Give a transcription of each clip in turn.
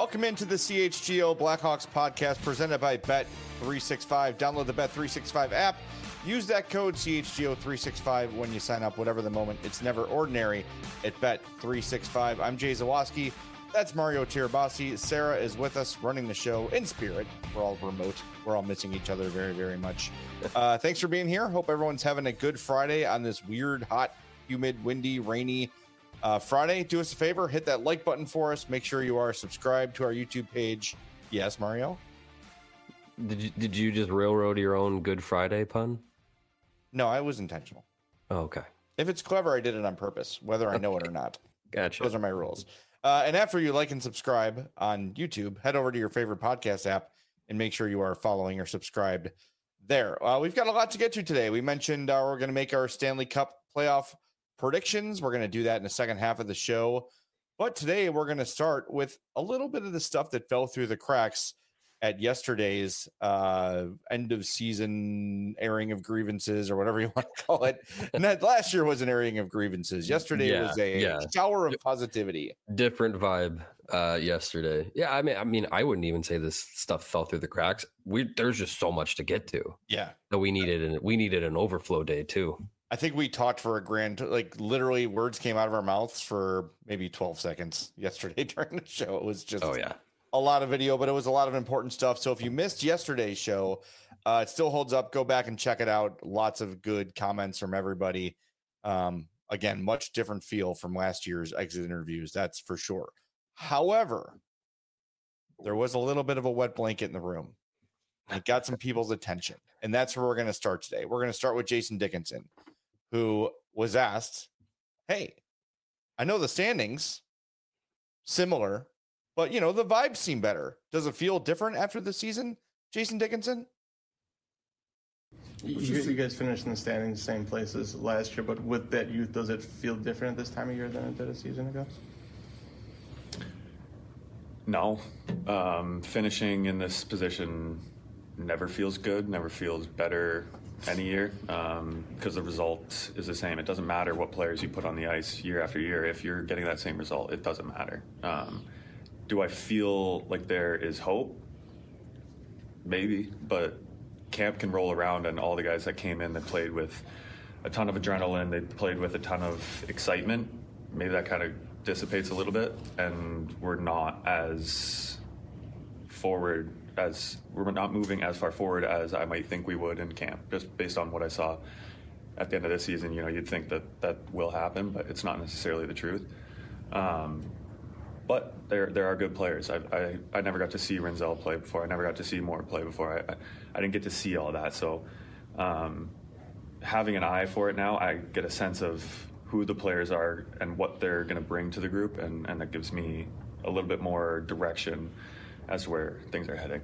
Welcome into the CHGO Blackhawks podcast presented by Bet365. Download the Bet365 app. Use that code CHGO365 when you sign up, whatever the moment. It's never ordinary at Bet365. I'm Jay Zawaski. That's Mario Tirabassi. Sarah is with us running the show in spirit. We're all remote. We're all missing each other very, very much. Thanks for being here. Hope everyone's having a good Friday on this weird, hot, humid, windy, rainy Friday. Do us a favor. Hit that like button for us. Make sure you are subscribed to our YouTube page. Yes, Mario? Did you just railroad your own Good Friday pun? No, I was intentional. Oh, okay. If it's clever, I did it on purpose, whether I know it or not. Gotcha. Those are my rules. And after you like and subscribe on YouTube, head over to your favorite podcast app and make sure you are following or subscribed there. We've got a lot to get to today. We mentioned we're going to make our Stanley Cup playoff predictions. We're going to do that in the second half of the show. But today we're going to start with a little bit of the stuff that fell through the cracks at yesterday's end of season airing of grievances, or whatever you want to call it. And that last year was an airing of grievances. Yesterday was a shower of positivity. Different vibe yesterday. Yeah, I mean, I wouldn't even say this stuff fell through the cracks. There's just so much to get to. Yeah. So we needed an overflow day too. I think we talked for literally words came out of our mouths for maybe 12 seconds yesterday during the show. It was just a lot of video, but it was a lot of important stuff. So if you missed yesterday's show, it still holds up. Go back and check it out. Lots of good comments from everybody. Again, much different feel from last year's exit interviews. That's for sure. However, there was a little bit of a wet blanket in the room. It got some people's attention, and that's where we're going to start today. We're going to start with Jason Dickinson, who was asked, hey, I know the standings similar, but, the vibes seem better. Does it feel different after the season, Jason Dickinson? You guys finished in the standings the same place as last year, but with that youth, does it feel different this time of year than it did a season ago? No. Finishing in this position never feels good, never feels better any year, because the result is the same. It doesn't matter what players you put on the ice year after year. If you're getting that same result, it doesn't matter. Do I feel like there is hope? Maybe, but camp can roll around, and all the guys that came in that played with a ton of adrenaline, they played with a ton of excitement. Maybe that kind of dissipates a little bit, and we're not moving as far forward as I might think we would in camp, just based on what I saw at the end of this season. You'd think that will happen, but it's not necessarily the truth. But there are good players. I never got to see Rinzel play before. I never got to see Moore play before. I didn't get to see all that. So having an eye for it now, I get a sense of who the players are and what they're going to bring to the group, and that gives me a little bit more direction as to where things are heading.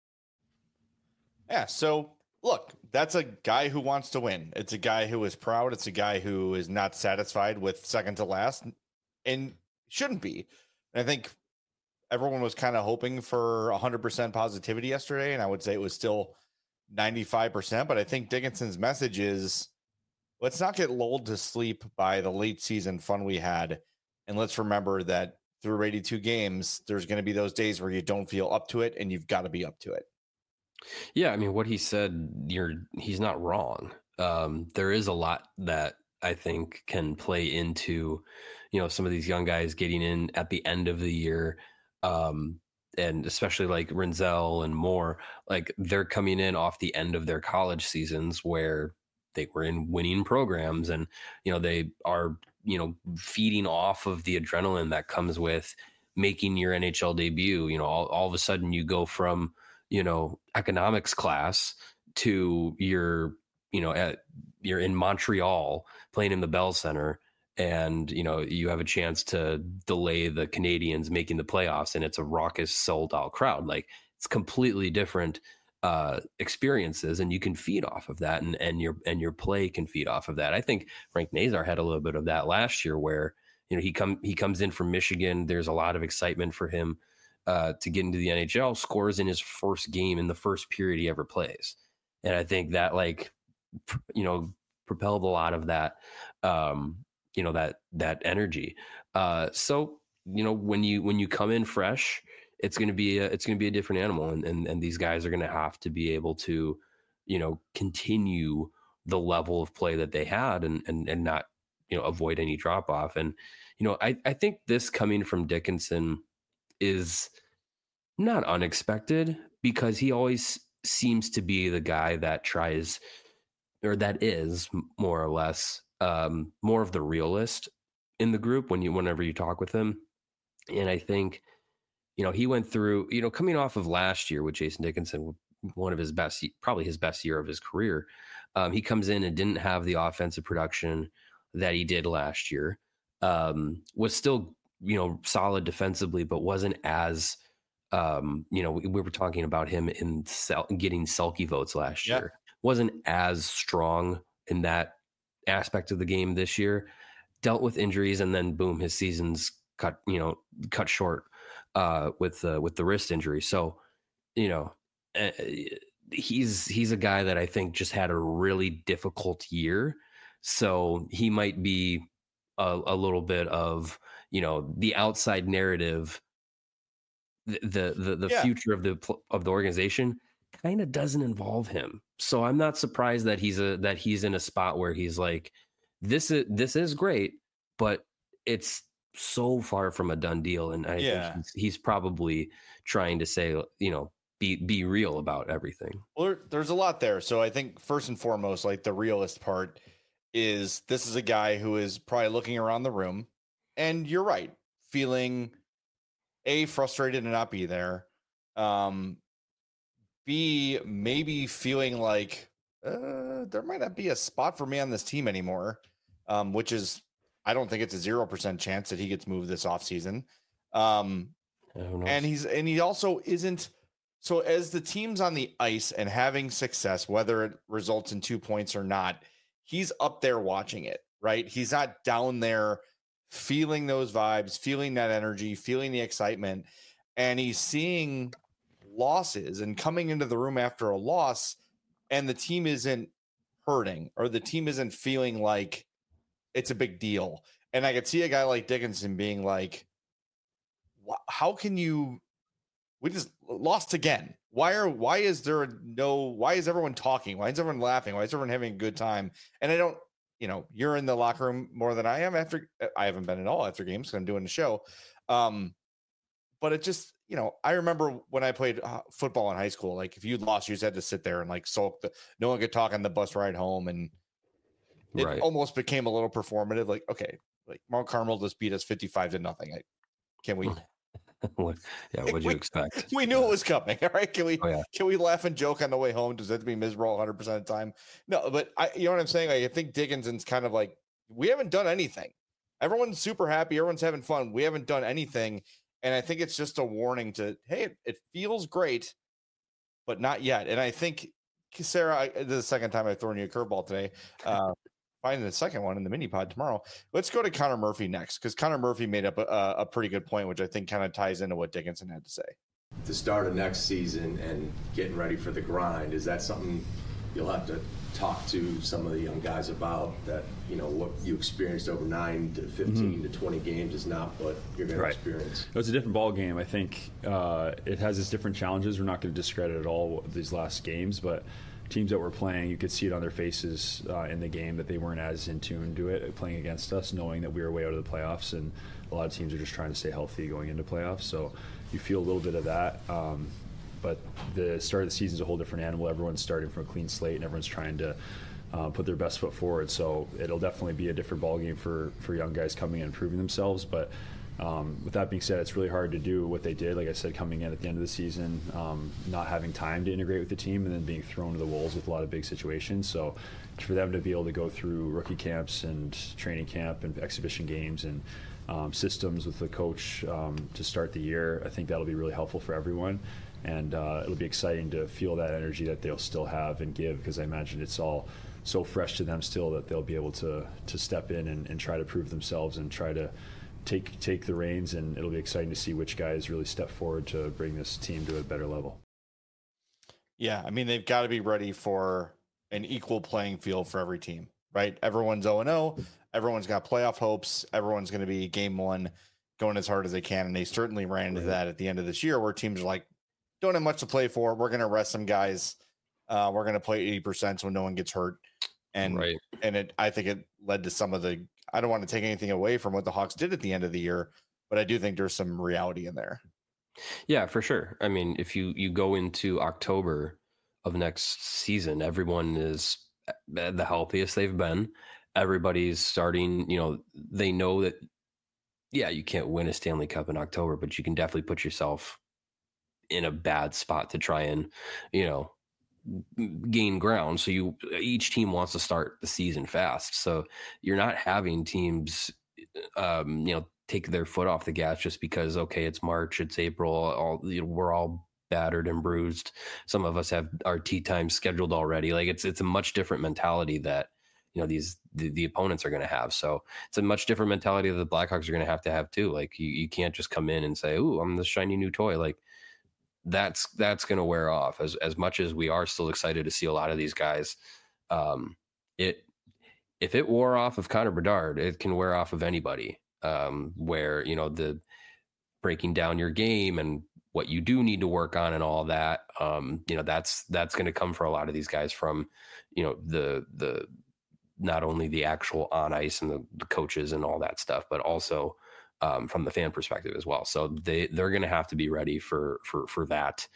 Yeah, so look, that's a guy who wants to win. It's a guy who is proud. It's a guy who is not satisfied with second to last and shouldn't be. And I think everyone was kind of hoping for 100% positivity yesterday, and I would say it was still 95%. But I think Dickinson's message is, let's not get lulled to sleep by the late season fun we had. And let's remember that through 82 games, there's going to be those days where you don't feel up to it, and you've got to be up to it. Yeah, I mean, what he said, he's not wrong. There is a lot that I think can play into, some of these young guys getting in at the end of the year, and especially like Rinzel and Moore, like they're coming in off the end of their college seasons where they were in winning programs, and they are feeding off of the adrenaline that comes with making your NHL debut. All of a sudden you go from economics class to you're in Montreal playing in the Bell Center, and you have a chance to delay the Canadians making the playoffs, and it's a raucous, sold out crowd. Like, it's completely different experiences, and you can feed off of that, and your play can feed off of that. I think Frank Nazar had a little bit of that last year, where he comes in from Michigan. There's a lot of excitement for him to get into the NHL. Scores in his first game in the first period he ever plays, and I think that propelled a lot of that that energy. So when you come in fresh it's going to be a different animal, and these guys are going to have to be able to, continue the level of play that they had and not, avoid any drop off. And, I think this coming from Dickinson is not unexpected, because he always seems to be the guy that tries, or that is more or less more of the realist in the group whenever you talk with him. And I think, he went through, coming off of last year with Jason Dickinson, one of his best, probably his best year of his career. He comes in and didn't have the offensive production that he did last year. Was still, solid defensively, but wasn't as, we were talking about him in getting sulky votes last year. Wasn't as strong in that aspect of the game this year. Dealt with injuries, and then boom, his season's cut short with the wrist injury. So, he's a guy that I think just had a really difficult year. So he might be a little bit of, the outside narrative, the future of the organization kind of doesn't involve him. So I'm not surprised that he's in a spot where he's like, this is great, but it's so far from a done deal. And I think he's probably trying to say, be real about everything. Well, there's a lot there. So I think first and foremost, like the realist part is, this is a guy who is probably looking around the room, and you're right, feeling frustrated to not be there. B, maybe feeling like there might not be a spot for me on this team anymore, which is, I don't think it's a 0% chance that he gets moved this offseason. And he also isn't. So as the team's on the ice and having success, whether it results in 2 points or not, he's up there watching it, right? He's not down there feeling those vibes, feeling that energy, feeling the excitement. And he's seeing losses and coming into the room after a loss, and the team isn't hurting, or the team isn't feeling like it's a big deal. And I could see a guy like Dickinson being like, how can you, we just lost again. Why is everyone talking? Why is everyone laughing? Why is everyone having a good time? And I don't, you're in the locker room more than I am. I haven't been at all after games, because I'm doing the show. But it just, I remember when I played football in high school, like if you lost, you just had to sit there and like sulk. No one could talk on the bus ride home. And it almost became a little performative. Like, okay, like Mount Carmel just beat us 55-0. Can we? Yeah, what'd you expect? We knew it was coming. All right. Can we laugh and joke on the way home? Does that have to be miserable 100% of the time? No, but you know what I'm saying? I think Dickinson's kind of like, we haven't done anything. Everyone's super happy. Everyone's having fun. We haven't done anything. And I think it's just a warning hey, it feels great, but not yet. And I think, Sarah, this is the second time I've thrown you a curveball today. Finding the second one in the mini pod tomorrow. Let's go to Connor Murphy next, because Connor Murphy made up a pretty good point, which I think kind of ties into what Dickinson had to say. To start of next season and getting ready for the grind, is that something you'll have to talk to some of the young guys about, that, what you experienced over 9 to 15 to 20 games is not what you're going to experience? It's a different ball game. I think it has its different challenges. We're not going to discredit at all these last games, but teams that were playing, you could see it on their faces in the game that they weren't as in tune to it, playing against us, knowing that we were way out of the playoffs, and a lot of teams are just trying to stay healthy going into playoffs. So you feel a little bit of that. But the start of the season is a whole different animal. Everyone's starting from a clean slate, and everyone's trying to put their best foot forward. So it'll definitely be a different ballgame for young guys coming in and proving themselves. But with that being said, it's really hard to do what they did. Like I said, coming in at the end of the season, not having time to integrate with the team, and then being thrown to the wolves with a lot of big situations. So for them to be able to go through rookie camps and training camp and exhibition games and systems with the coach to start the year, I think that'll be really helpful for everyone. And it'll be exciting to feel that energy that they'll still have and give, because I imagine it's all so fresh to them still that they'll be able to step in and try to prove themselves and try to take the reins, and it'll be exciting to see which guys really step forward to bring this team to a better level. Yeah, I mean, they've got to be ready for an equal playing field for every team, right? Everyone's 0-0. Everyone's got playoff hopes. Everyone's going to be game one going as hard as they can. And they certainly ran into that at the end of this year where teams are like, don't have much to play for. We're going to rest some guys. We're going to play 80% so no one gets hurt. And I think it led to some of the, I don't want to take anything away from what the Hawks did at the end of the year, but I do think there's some reality in there. Yeah, for sure. I mean, if you go into October of next season, everyone is the healthiest they've been. Everybody's starting, they know that, yeah, you can't win a Stanley Cup in October, but you can definitely put yourself in a bad spot to try and, gain ground. So each team wants to start the season fast. So you're not having teams, take their foot off the gas just because, okay, it's March, it's April, we're all battered and bruised. Some of us have our tea time scheduled already. Like it's a much different mentality that, the opponents are going to have. So it's a much different mentality that the Blackhawks are going to have too. Like you can't just come in and say, "Ooh, I'm the shiny new toy." Like that's going to wear off as much as we are still excited to see a lot of these guys. If it wore off of Connor Bedard, it can wear off of anybody. Where, the breaking down your game and what you do need to work on and all that, that's going to come for a lot of these guys from, the not only the actual on ice and the coaches and all that stuff, but also from the fan perspective as well. So they're going to have to be ready for that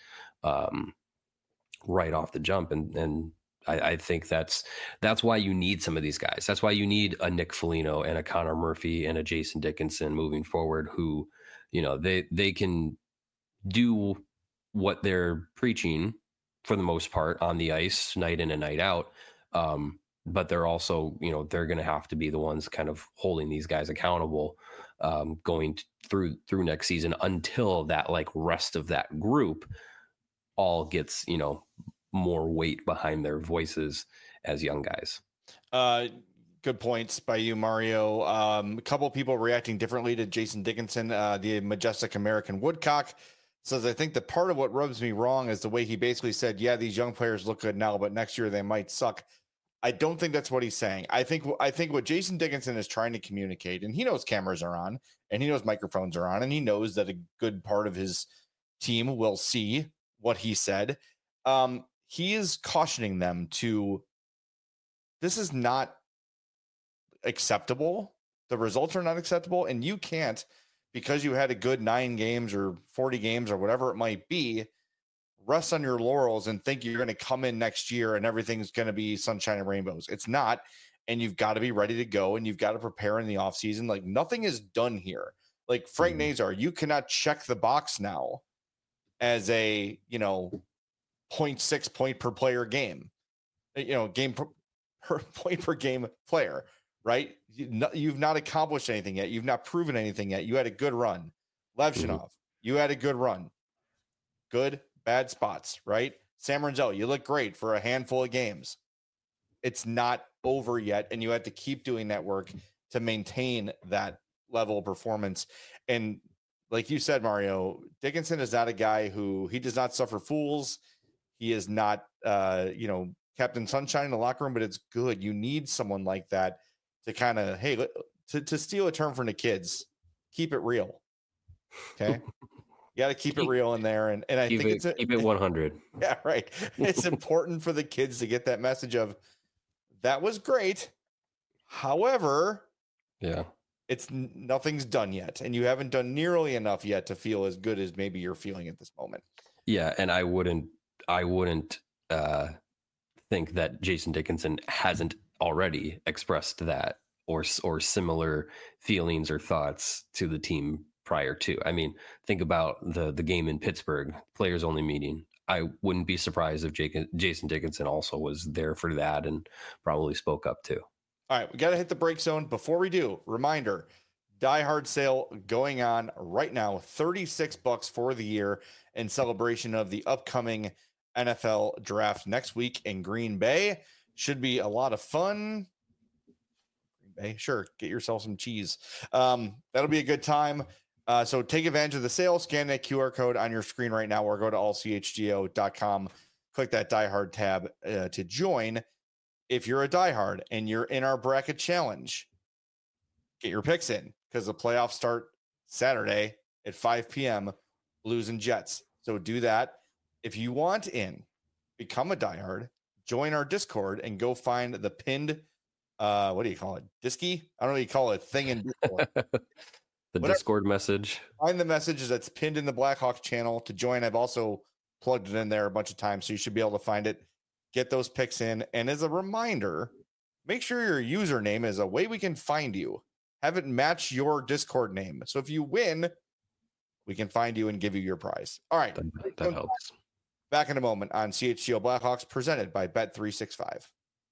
right off the jump. And I think that's why you need some of these guys. That's why you need a Nick Foligno and a Connor Murphy and a Jason Dickinson moving forward, who, they can do what they're preaching for the most part on the ice night in and night out. But they're also, they're going to have to be the ones kind of holding these guys accountable going through next season until that like rest of that group all gets, more weight behind their voices as young guys. Good points by you, Mario. A couple of people reacting differently to Jason Dickinson. The Majestic American Woodcock says, I think the part of what rubs me wrong is the way he basically said, yeah, these young players look good now, but next year they might suck. I don't think that's what he's saying. I think what Jason Dickinson is trying to communicate, and he knows cameras are on and he knows microphones are on, and he knows that a good part of his team will see what he said. He is cautioning them to, this is not acceptable. The results are not acceptable. And you can't, because you had a good 9 games or 40 games or whatever it might be, rest on your laurels and think you're going to come in next year and everything's going to be sunshine and rainbows. It's not. And you've got to be ready to go, and you've got to prepare in the offseason. Like nothing is done here. Like Frank Nazar, you cannot check the box now as a, 0.6 point per player game, game per point per game player, right? You've not accomplished anything yet. You've not proven anything yet. You had a good run. Levshinov, you had a good run. Good, bad spots, right? Sam Renzel, you look great for a handful of games. It's not over yet, and you have to keep doing that work to maintain that level of performance. And like you said, Mario, Dickinson is not a guy he does not suffer fools. He is not, Captain Sunshine in the locker room, but it's good. You need someone like that to kind of, hey, to steal a term from the kids, keep it real. Okay. You got to keep it real in there. And I think keep it 100. Yeah, right. It's important for the kids to get that message of that was great. However, yeah, nothing's done yet. And you haven't done nearly enough yet to feel as good as maybe you're feeling at this moment. Yeah. And I wouldn't think that Jason Dickinson hasn't already expressed that or similar feelings or thoughts to the team prior to. I mean, think about the game in Pittsburgh, players only meeting. I wouldn't be surprised if Jason Dickinson also was there for that and probably spoke up too. All right, we got to hit the break zone. Before we do, reminder, Die Hard sale going on right now, $36 for the year in celebration of the upcoming NFL draft next week in Green Bay. Should be a lot of fun. Green Bay, sure, get yourself some cheese. That'll be a good time. So take advantage of the sale, scan that QR code on your screen right now, or go to allchgo.com, click that Die Hard tab to join. If you're a Die Hard and you're in our bracket challenge, get your picks in because the playoffs start Saturday at 5 p.m., Blues and Jets. So do that. If you want in, become a diehard, join our Discord, and go find the pinned, what do you call it? Disky? I don't know what you call it. Thing in Discord. Discord message. Find the message that's pinned in the Blackhawks channel to join. I've also plugged it in there a bunch of times, so you should be able to find it. Get those picks in. And as a reminder, make sure your username is a way we can find you. Have it match your Discord name. So if you win, we can find you and give you your prize. All right. That helps. Back in a moment on CHGO Blackhawks, presented by Bet365.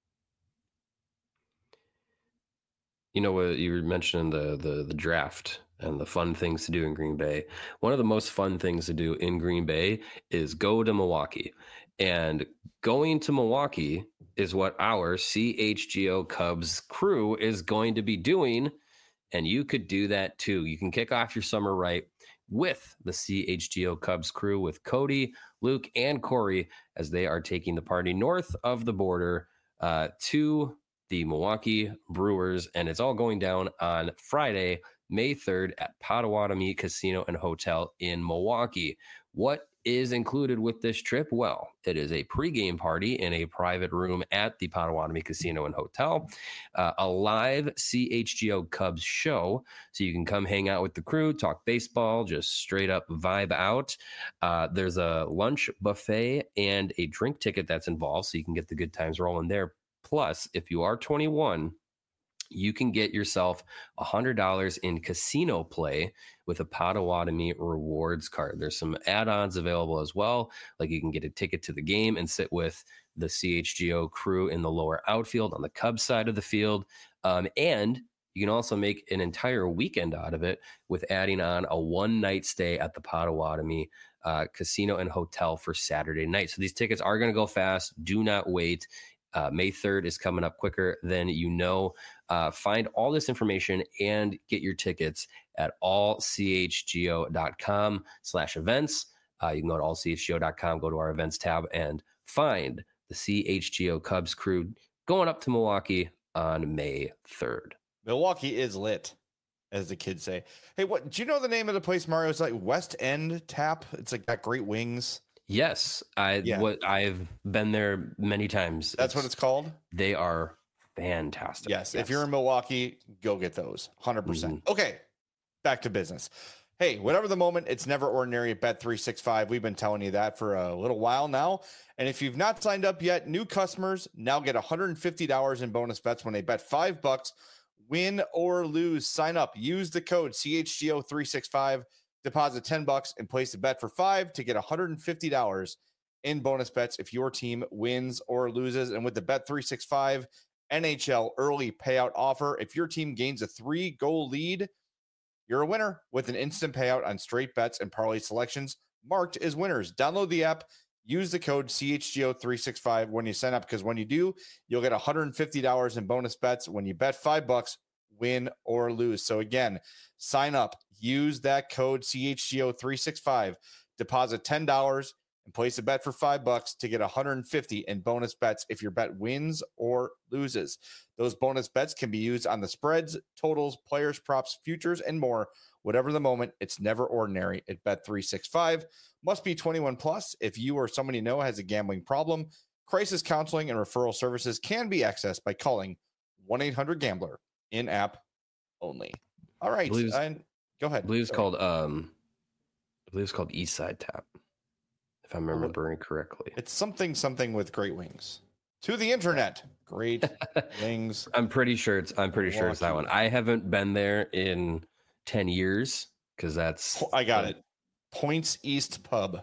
You know what you were mentioning the draft and the fun things to do in Green Bay. One of the most fun things to do in Green Bay is go to Milwaukee. And going to Milwaukee is what our CHGO Cubs crew is going to be doing. And you could do that too. You can kick off your summer right with the CHGO Cubs crew with Cody, Luke, and Corey as they are taking the party north of the border to the Milwaukee Brewers. And it's all going down on Friday, May 3rd at Potawatomi Casino and Hotel in Milwaukee. What is included with this trip? Well, it is a pregame party in a private room at the Potawatomi Casino and Hotel, a live CHGO Cubs show, so you can come hang out with the crew, talk baseball, just straight up vibe out. There's a lunch buffet and a drink ticket that's involved, so you can get the good times rolling there. Plus, if you are 21, you can get yourself $100 in casino play with a Potawatomi rewards card. There's some add-ons available as well. Like you can get a ticket to the game and sit with the CHGO crew in the lower outfield on the Cubs side of the field. And you can also make an entire weekend out of it with adding on a one-night stay at the Potawatomi Casino and Hotel for Saturday night. So these tickets are going to go fast. Do not wait. May 3rd is coming up quicker than you know. Find all this information and get your tickets at allchgo.com/events. You can go to allchgo.com, go to our events tab, and find the CHGO Cubs crew going up to Milwaukee on May 3rd. Milwaukee is lit, as the kids say. Hey, what do you know the name of the place, Mario? It's like West End Tap. It's like got great wings. Yes, I've been there many times. That's what it's called? They are fantastic. Yes. If you're in Milwaukee, go get those. 100%. Mm-hmm. Okay, back to business. Hey, whatever the moment, it's never ordinary at Bet365. We've been telling you that for a little while now. And if you've not signed up yet, new customers now get $150 in bonus bets when they bet $5, win or lose. Sign up. Use the code CHGO365. Deposit $10 and place a bet for $5 to get $150 in bonus bets if your team wins or loses. And with the Bet365 NHL early payout offer, if your team gains a 3-goal lead, you're a winner with an instant payout on straight bets and parlay selections marked as winners. Download the app. Use the code CHGO365 when you sign up, because when you do, you'll get $150 in bonus bets when you bet $5, win or lose. So again, sign up. Use that code CHGO365, deposit $10 and place a bet for $5 to get $150 in bonus bets if your bet wins or loses. Those bonus bets can be used on the spreads, totals, players, props, futures, and more. Whatever the moment, it's never ordinary at Bet365. Must be 21 plus. If you or someone you know has a gambling problem, crisis counseling and referral services can be accessed by calling 1-800-GAMBLER in-app only. All right. Go ahead. I believe it's called East Side Tap, if I'm remembering correctly. It's something with great wings. To the internet. Great wings. I'm pretty sure it's that one. I haven't been there in 10 years because that's I got it. Points East Pub.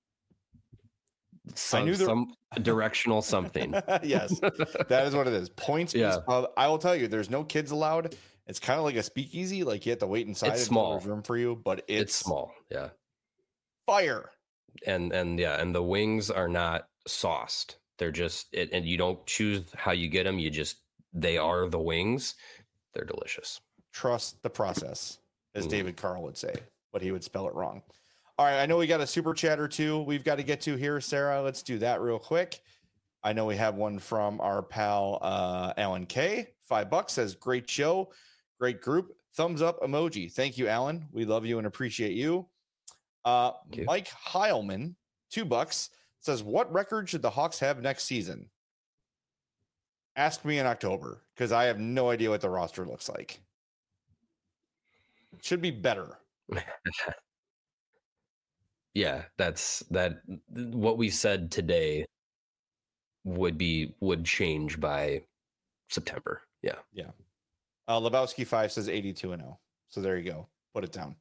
Some directional something. Yes, that is what it is. Points East Pub. I will tell you, there's no kids allowed. It's kind of like a speakeasy. Like you have to wait inside. It's small. There's room for you, but it's small. Yeah. Fire. And the wings are not sauced. They're just and you don't choose how you get them. They are the wings. They're delicious. Trust the process, as David Carl would say, but he would spell it wrong. All right, I know we got a super chat or two we've got to get to here, Sarah. Let's do that real quick. I know we have one from our pal Alan K. $5 says, great show. Great group. Thumbs up emoji. Thank you, Alan. We love you and appreciate you. Mike Heilman, $2, says, what record should the Hawks have next season? Ask me in October, because I have no idea what the roster looks like. It should be better. Yeah, that's what we said today would change by September. Yeah. Lebowski 5 says 82-0. So there you go. Put it down.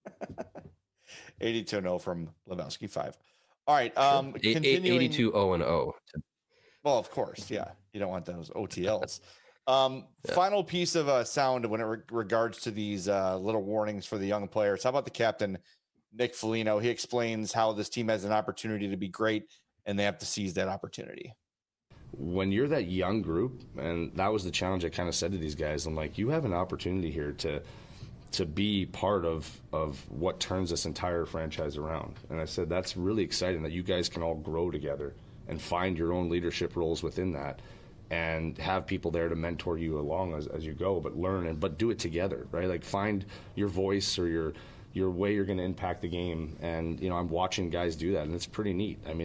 82-0 from Lebowski 5. All right. Continuing 82-0-0. Well, of course. Yeah. You don't want those OTLs. Final piece of sound when it regards to these little warnings for the young players. How about the captain, Nick Foligno? He explains how this team has an opportunity to be great and they have to seize that opportunity. When you're that young group, and that was the challenge I kind of said to these guys, I'm like, you have an opportunity here to be part of what turns this entire franchise around. And I said, that's really exciting that you guys can all grow together and find your own leadership roles within that and have people there to mentor you along as you go, but learn but do it together, right? Like find your voice or your way you're going to impact the game. And, I'm watching guys do that, and it's pretty neat. I mean,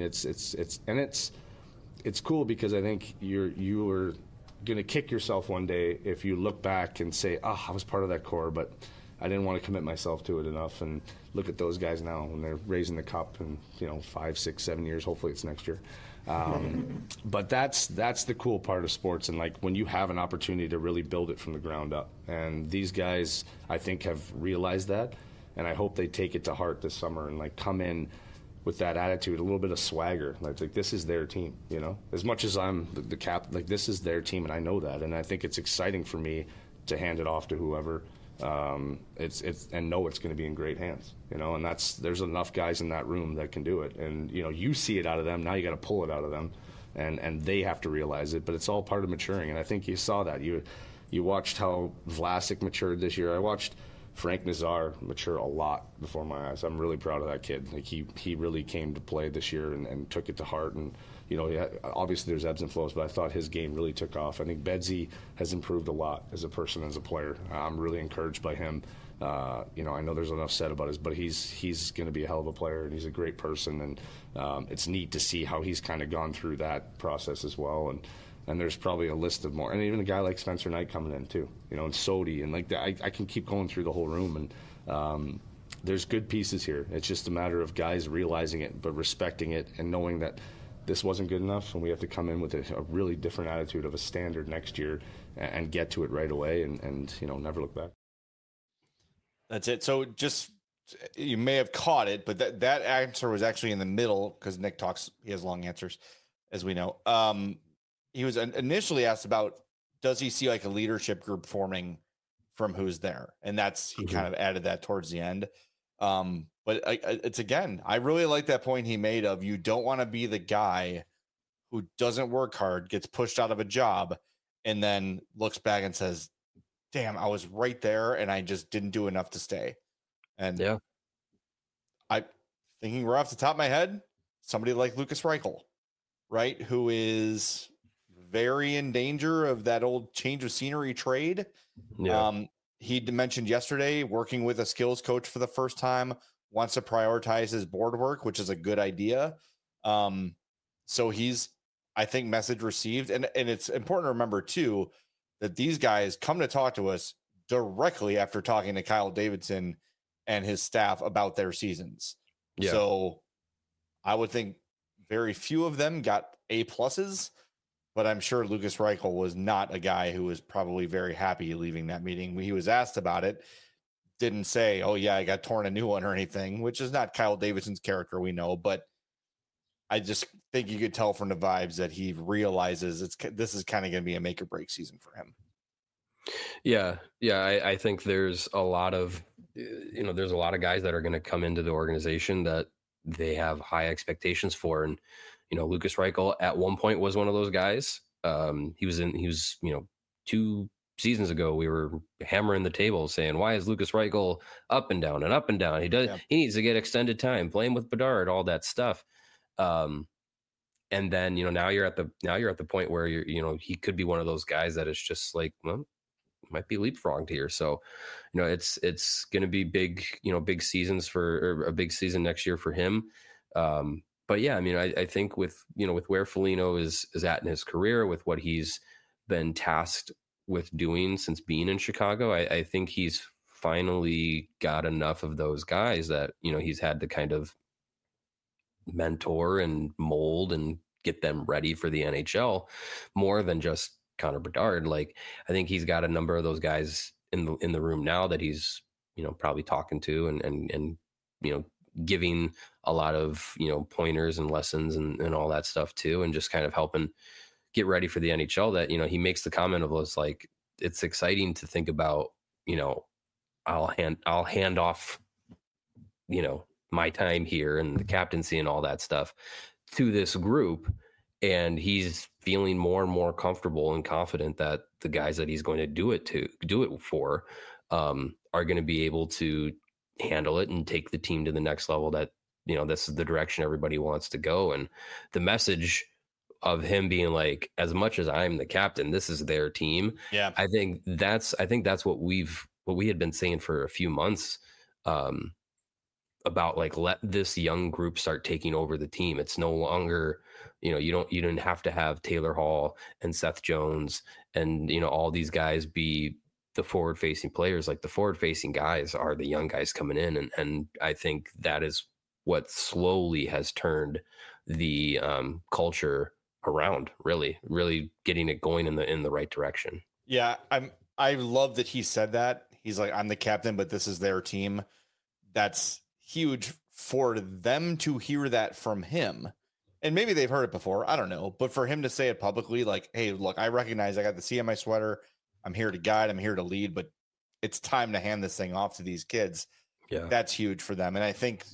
it's cool because I think you are going to kick yourself one day if you look back and say, I was part of that core, but I didn't want to commit myself to it enough. And look at those guys now when they're raising the cup in 5, 6, 7 years. Hopefully it's next year. But that's the cool part of sports, and like when you have an opportunity to really build it from the ground up. And these guys, I think, have realized that, and I hope they take it to heart this summer and like come in with that attitude, a little bit of swagger. Like this is their team, As much as I'm the cap, like this is their team, and I know that, and I think it's exciting for me to hand it off to whoever. And know it's going to be in great hands, And there's enough guys in that room that can do it, and you see it out of them. Now you got to pull it out of them, and they have to realize it. But it's all part of maturing, and I think you saw that. You watched how Vlasic matured this year. I watched Frank Nazar mature a lot before my eyes. I'm really proud of that kid. Like he really came to play this year and took it to heart. And obviously there's ebbs and flows, but I thought his game really took off. I think Bedsy has improved a lot as a person, as a player. I'm really encouraged by him. I know there's enough said about but he's going to be a hell of a player, and he's a great person. And it's neat to see how he's kind of gone through that process as well. And there's probably a list of more, and even a guy like Spencer Knight coming in too, and Sodi, and like that. I can keep going through the whole room, and there's good pieces here. It's just a matter of guys realizing it, but respecting it, and knowing that this wasn't good enough, and we have to come in with a really different attitude of a standard next year and get to it right away, and never look back. That's it. So just, you may have caught it, but that answer was actually in the middle, because Nick he has long answers, as we know. He was initially asked about, does he see like a leadership group forming from who's there? And he kind of added that towards the end. But it's, again, I really like that point he made of, you don't want to be the guy who doesn't work hard, gets pushed out of a job, and then looks back and says, damn, I was right there and I just didn't do enough to stay. And yeah, I thinking right off the top of my head, somebody like Lukas Reichel, right? Who is very in danger of that old change of scenery trade. Yeah. He mentioned yesterday working with a skills coach for the first time, wants to prioritize his board work, which is a good idea. So he's, I think, message received. And it's important to remember too, that these guys come to talk to us directly after talking to Kyle Davidson and his staff about their seasons. Yeah. So I would think very few of them got A+, but I'm sure Lukas Reichel was not a guy who was probably very happy leaving that meeting. When he was asked about it, didn't say, oh yeah, I got torn a new one or anything, which is not Kyle Davidson's character, we know, but I just think you could tell from the vibes that he realizes this is kind of going to be a make or break season for him. Yeah. I think there's a lot of, there's a lot of guys that are going to come into the organization that they have high expectations for. And, Lukas Reichel at one point was one of those guys. He was 2 seasons ago, we were hammering the table saying, why is Lukas Reichel up and down and up and down? He needs to get extended time playing with Bedard, all that stuff. And then, now you're at the point where he could be one of those guys that is just like, well, might be leapfrogged here. So, it's going to be big, big seasons or a big season next year for him. But yeah, I mean, I think with where Foligno is at in his career, with what he's been tasked with doing since being in Chicago, I think he's finally got enough of those guys that, he's had to kind of mentor and mold and get them ready for the NHL more than just Connor Bedard. Like, I think he's got a number of those guys in the room now that he's, probably talking to and giving a lot of, pointers and lessons and all that stuff too. And just kind of helping get ready for the NHL that, he makes the comment of us, like, it's exciting to think about, I'll hand off, my time here and the captaincy and all that stuff to this group. And he's feeling more and more comfortable and confident that the guys that he's going to do it for are going to be able to handle it and take the team to the next level, that, this is the direction everybody wants to go. And the message of him being like, as much as I'm the captain, this is their team. Yeah. I think that's what we had been saying for a few months, about, like, let this young group start taking over the team. It's no longer, you didn't have to have Taylor Hall and Seth Jones and, all these guys be the forward facing players. Like, the forward facing guys are the young guys coming in. And I think that is what slowly has turned the culture around, really getting it going in the right direction. Yeah. I love that he said that. He's like, I'm the captain, but this is their team. That's huge for them to hear that from him. And maybe they've heard it before, I don't know, but for him to say it publicly, like, hey, look, I recognize I got the C on my sweater. I'm here to guide, I'm here to lead, but it's time to hand this thing off to these kids. Yeah. That's huge for them. And I think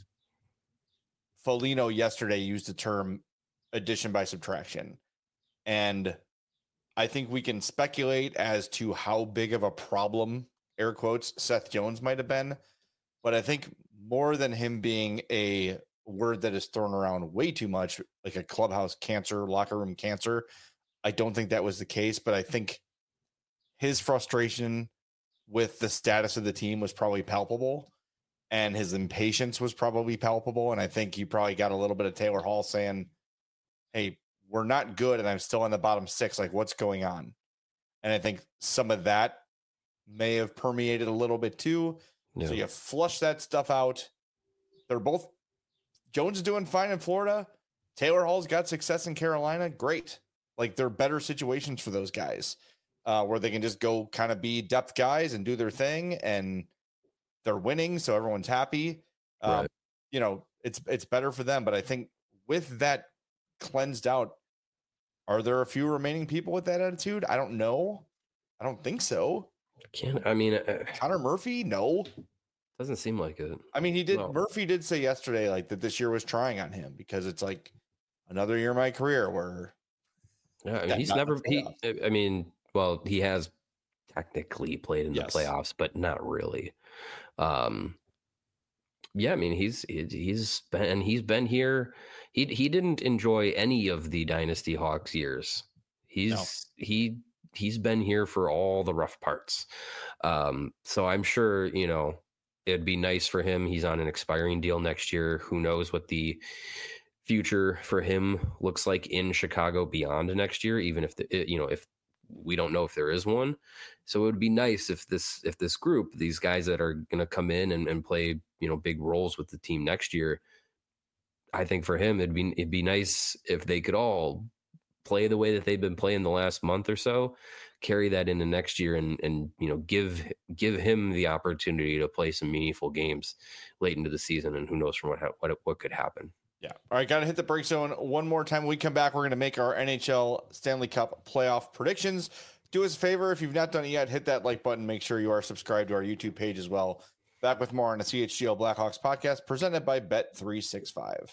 Foligno yesterday used the term addition by subtraction. And I think we can speculate as to how big of a problem, air quotes, Seth Jones might have been. But I think more than him being a word that is thrown around way too much, like a clubhouse cancer, locker room cancer, I don't think that was the case. But I think his frustration with the status of the team was probably palpable, and his impatience was probably palpable. And I think you probably got a little bit of Taylor Hall saying, hey, we're not good, and I'm still in the bottom six. Like, what's going on? And I think some of that may have permeated a little bit too. Yeah. So you flush that stuff out. They're both, Jones is doing fine in Florida. Taylor Hall's got success in Carolina. Great. Like, they're better situations for those guys where they can just go kind of be depth guys and do their thing, and they're winning. So everyone's happy. Right. It's better for them. But I think with that cleansed out, are there a few remaining people with that attitude? I don't know. I don't think so. Connor Murphy? No. Doesn't seem like it. I mean, Murphy did say yesterday, like, that this year was trying on him because it's like another year of my career where. Yeah, I mean, he has technically played in the playoffs, but not really. Yeah, I mean, he's been here. He didn't enjoy any of the Dynasty Hawks years. He's been here for all the rough parts. So I'm sure, it'd be nice for him. He's on an expiring deal next year. Who knows what the future for him looks like in Chicago beyond next year, even if if we don't know if there is one. So it would be nice if this group, these guys that are going to come in and play, big roles with the team next year, I think for him, it'd be nice if they could all play the way that they've been playing the last month or so, carry that into next year and give him the opportunity to play some meaningful games late into the season. And who knows from what could happen. Yeah. All right. Got to hit the break zone one more time. When we come back, we're going to make our NHL Stanley Cup playoff predictions. Do us a favor. If you've not done it yet, hit that like button. Make sure you are subscribed to our YouTube page as well. Back with more on the CHGO Blackhawks podcast presented by Bet365.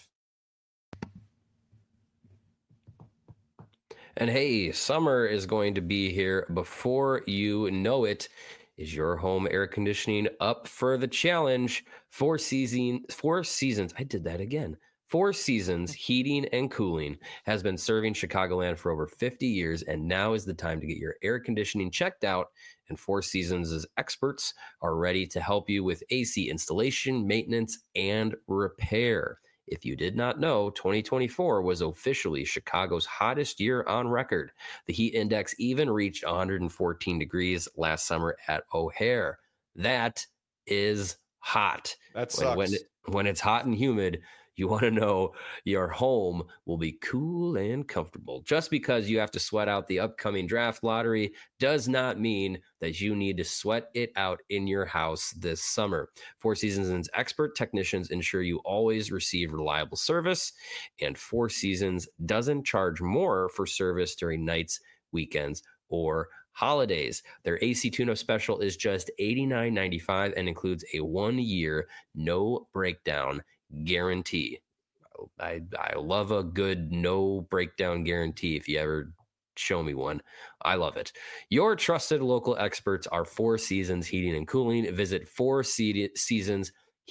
And hey, summer is going to be here before you know it. Is your home air conditioning up for the challenge? 4 seasons. I did that again. Four Seasons Heating and Cooling has been serving Chicagoland for over 50 years, and now is the time to get your air conditioning checked out. And Four Seasons' experts are ready to help you with AC installation, maintenance, and repair. If you did not know, 2024 was officially Chicago's hottest year on record. The heat index even reached 114 degrees last summer at O'Hare. That is hot. That sucks. When it's hot and humid, you want to know your home will be cool and comfortable. Just because you have to sweat out the upcoming draft lottery does not mean that you need to sweat it out in your house this summer. Four Seasons' expert technicians ensure you always receive reliable service, and Four Seasons doesn't charge more for service during nights, weekends, or holidays. Their AC tune-up special is just $89.95 and includes a 1-year no breakdown guarantee. I love a good no breakdown guarantee. If you ever show me one, I love it. Your trusted local experts are Four Seasons Heating and Cooling. Visit Four Seasons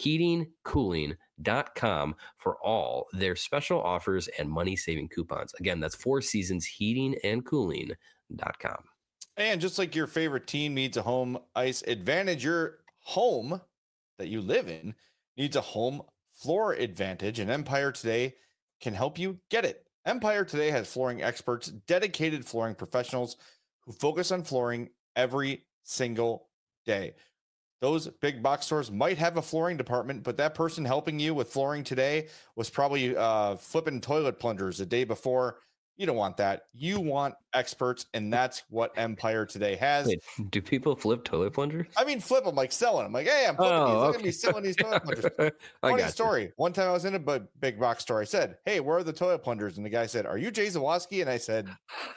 heatingcooling.com for all their special offers and money-saving coupons. Again, that's Four Seasons heatingandcooling.com. And just like your favorite team needs a home ice advantage, your home that you live in needs a home floor advantage, and Empire Today can help you get it. Empire Today has flooring experts, dedicated flooring professionals who focus on flooring every single day. Those big box stores might have a flooring department, but that person helping you with flooring today was probably flipping toilet plungers the day before. You don't want that. You want experts, and that's what Empire Today has. Wait, do people flip toilet plungers? I mean, flip them, like selling them. Like, hey, I'm flipping these. I'm going to be selling these toilet plungers. Funny story. One time I was in a big box store. I said, hey, where are the toilet plungers? And the guy said, are you Jay Zawoski? And I said,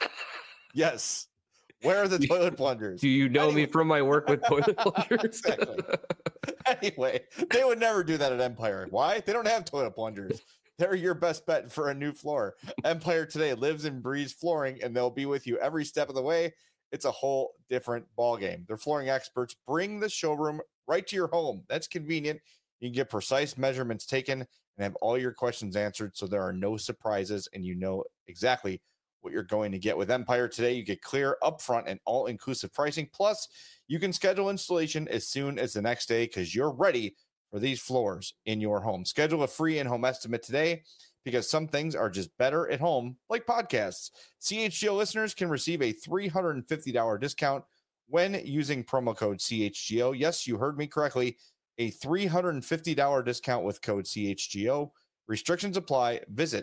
yes. Where are the toilet plungers? Do you know me from my work with toilet plungers? Exactly. Anyway, they would never do that at Empire. Why? They don't have toilet plungers. They're your best bet for a new floor. Empire Today lives and breathes flooring, and they'll be with you every step of the way. It's a whole different ballgame. Their flooring experts bring the showroom right to your home. That's convenient. You can get precise measurements taken and have all your questions answered, so there are no surprises, and you know exactly what you're going to get. With Empire Today, you get clear, upfront, and all-inclusive pricing. Plus, you can schedule installation as soon as the next day because you're ready for these floors in your home. Schedule a free in-home estimate today because some things are just better at home, like podcasts. CHGO listeners can receive a $350 discount when using promo code CHGO. Yes, you heard me correctly. A $350 discount with code CHGO. Restrictions apply. Visit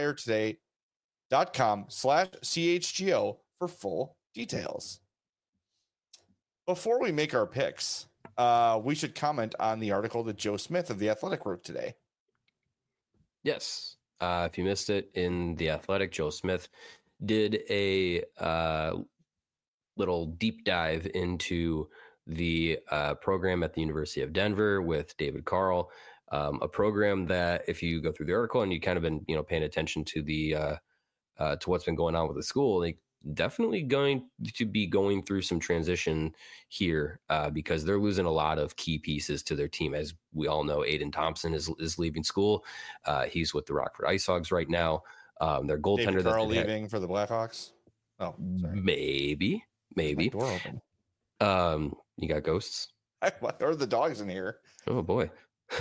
empiretoday.com/CHGO for full details. Before we make our picks, we should comment on the article that Joe Smith of The Athletic wrote today. Yes. If you missed it, in The Athletic, Joe Smith did a little deep dive into the program at the University of Denver with David Carl, a program that, if you go through the article and you kind of been paying attention to the to what's been going on with the school, they definitely going to be going through some transition here because they're losing a lot of key pieces to their team. As we all know, Aiden Thompson is leaving school. He's with the Rockford Ice Hogs right now. Their goaltender David Carl leaving for the Blackhawks. Oh, sorry. Maybe. My door open. You got ghosts? Or the dogs in here. Oh boy.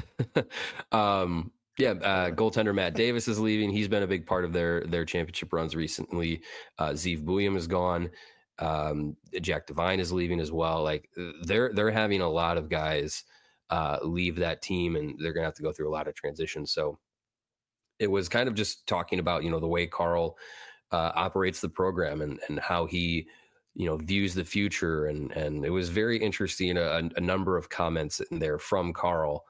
Goaltender Matt Davis is leaving. He's been a big part of their championship runs recently. Zeev Buium is gone. Jack Devine is leaving as well. Like they're having a lot of guys leave that team, and they're gonna have to go through a lot of transitions. So it was kind of just talking about the way Carl operates the program and how he views the future, and it was very interesting. A number of comments in there from Carl.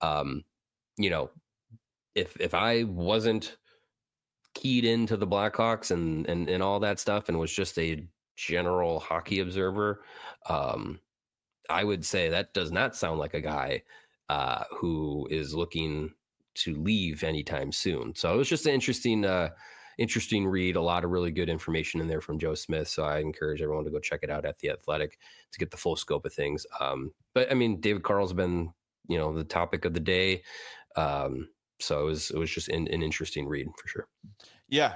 If I wasn't keyed into the Blackhawks and all that stuff and was just a general hockey observer, I would say that does not sound like a guy who is looking to leave anytime soon. So it was just an interesting read, a lot of really good information in there from Joe Smith. So I encourage everyone to go check it out at The Athletic to get the full scope of things. But I mean, David Carl's been, the topic of the day. So it was just an interesting read for sure. Yeah.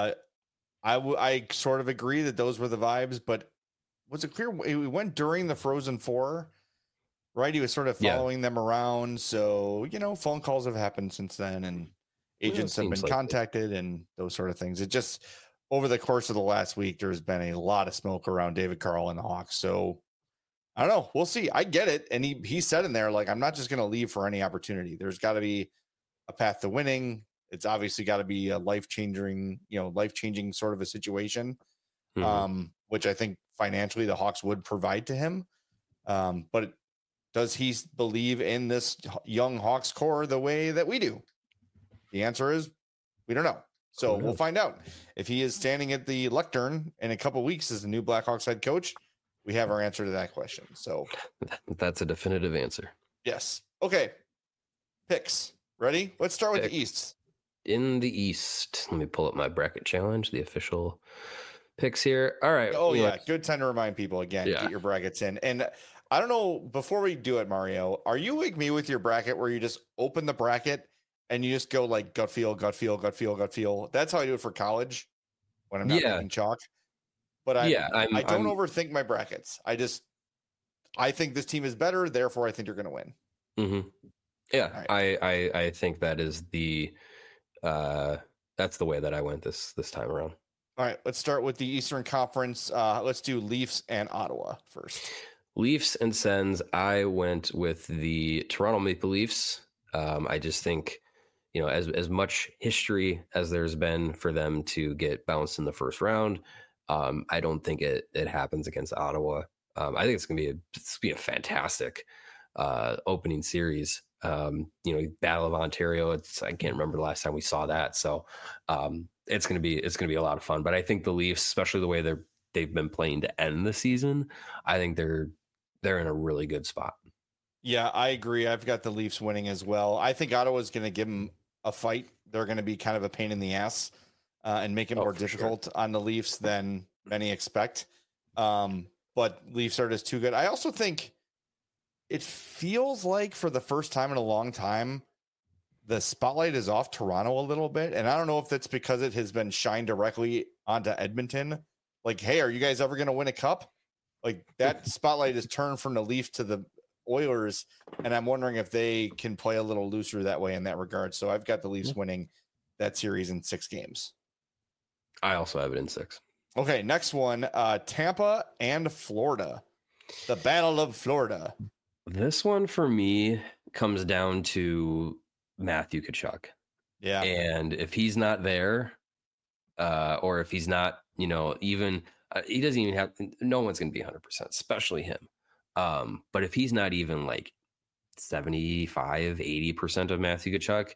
I sort of agree that those were the vibes, but was it clear it went during the Frozen Four, right? He was sort of following them around. So, phone calls have happened since then, and agents have been contacted and those sort of things. It just, over the course of the last week, there's been a lot of smoke around David Carl and the Hawks. So I don't know. We'll see. I get it. And he said in there, like, I'm not just going to leave for any opportunity. There's got to be a path to winning. It's obviously got to be a life-changing sort of a situation, which I think financially the Hawks would provide to him. But does he believe in this young Hawks core the way that we do? The answer is we don't know. So we'll find out. If he is standing at the lectern in a couple of weeks as the new Blackhawks head coach, we have our answer to that question. So that's a definitive answer. Yes. Okay. Picks. Ready? Let's start with the East. In the East, let me pull up my bracket challenge, the official picks here. All right. Oh, yeah. Good time to remind people again, get your brackets in. And I don't know, before we do it, Mario, are you like me with your bracket where you just open the bracket and you just go like gut feel, gut feel, gut feel, gut feel? That's how I do it for college when I'm not making chalk. But I don't overthink my brackets. I think this team is better, therefore I think you're going to win. Mm-hmm. Yeah, right. I think that is that's the way that I went this time around. All right, let's start with the Eastern Conference. Let's do Leafs and Ottawa first. Leafs and Sens. I went with the Toronto Maple Leafs. I just think, as much history as there's been for them to get bounced in the first round, I don't think it happens against Ottawa. I think it's gonna be a fantastic opening series. Battle of Ontario. I can't remember the last time we saw that. So it's gonna be a lot of fun. But I think the Leafs, especially the way they've been playing to end the season, I think they're in a really good spot. Yeah, I agree. I've got the Leafs winning as well. I think Ottawa's going to give them a fight. They're going to be kind of a pain in the ass and make it more difficult on the Leafs than many expect. But Leafs are just too good. I also think it feels like for the first time in a long time, the spotlight is off Toronto a little bit. And I don't know if that's because it has been shined directly onto Edmonton. Like, hey, are you guys ever going to win a cup? Like, that spotlight is turned from the Leafs to the Oilers. And I'm wondering if they can play a little looser that way in that regard. So I've got the Leafs winning that series in 6 games. I also have it in 6. Okay, next one, Tampa and Florida. The Battle of Florida. This one for me comes down to Matthew Tkachuk. Yeah. And if he's not there, or if he's not, even he doesn't even have, no one's going to be 100%, especially him. But if he's not even like 75, 80% of Matthew Tkachuk,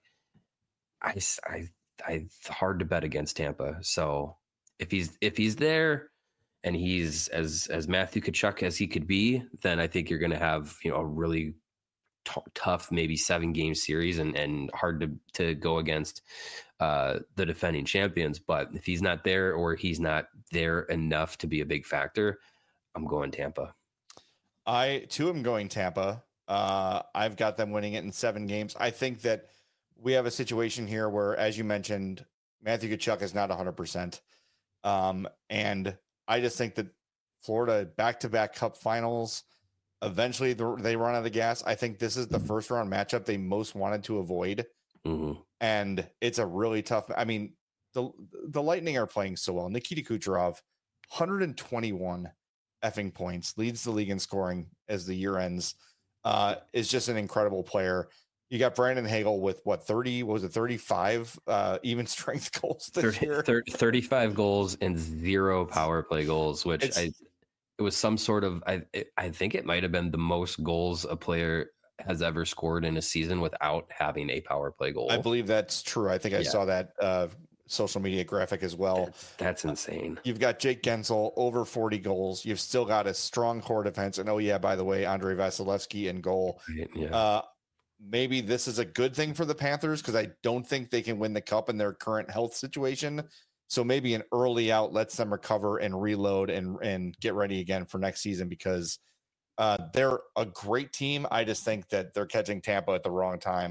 I hard to bet against Tampa. So if he's there and he's as Matthew Tkachuk as he could be, then I think you're going to have, a really tough, maybe 7-game series and hard to go against the defending champions. But if he's not there or he's not there enough to be a big factor, I'm going Tampa. I too am going Tampa. I've got them winning it in 7 games. I think that we have a situation here where, as you mentioned, Matthew Tkachuk is not 100%. And I just think that Florida back-to-back cup finals, eventually they run out of gas. I think this is the first round matchup they most wanted to avoid. Mm-hmm. And it's a really tough, I mean, the Lightning are playing so well. Nikita Kucherov, 121 effing points, leads the league in scoring as the year ends, is just an incredible player. You got Brandon Hagel with 35 even strength goals this year? 35 goals and 0 power play goals, which it was some sort of, I think it might have been the most goals a player has ever scored in a season without having a power play goal. I believe that's true. I think I saw that social media graphic as well. That's insane. You've got Jake Gensel over 40 goals. You've still got a strong core defense. And by the way, Andrei Vasilevsky in goal. Yeah. Maybe this is a good thing for the Panthers because I don't think they can win the cup in their current health situation. So maybe an early out lets them recover and reload and get ready again for next season because they're a great team. I just think that they're catching Tampa at the wrong time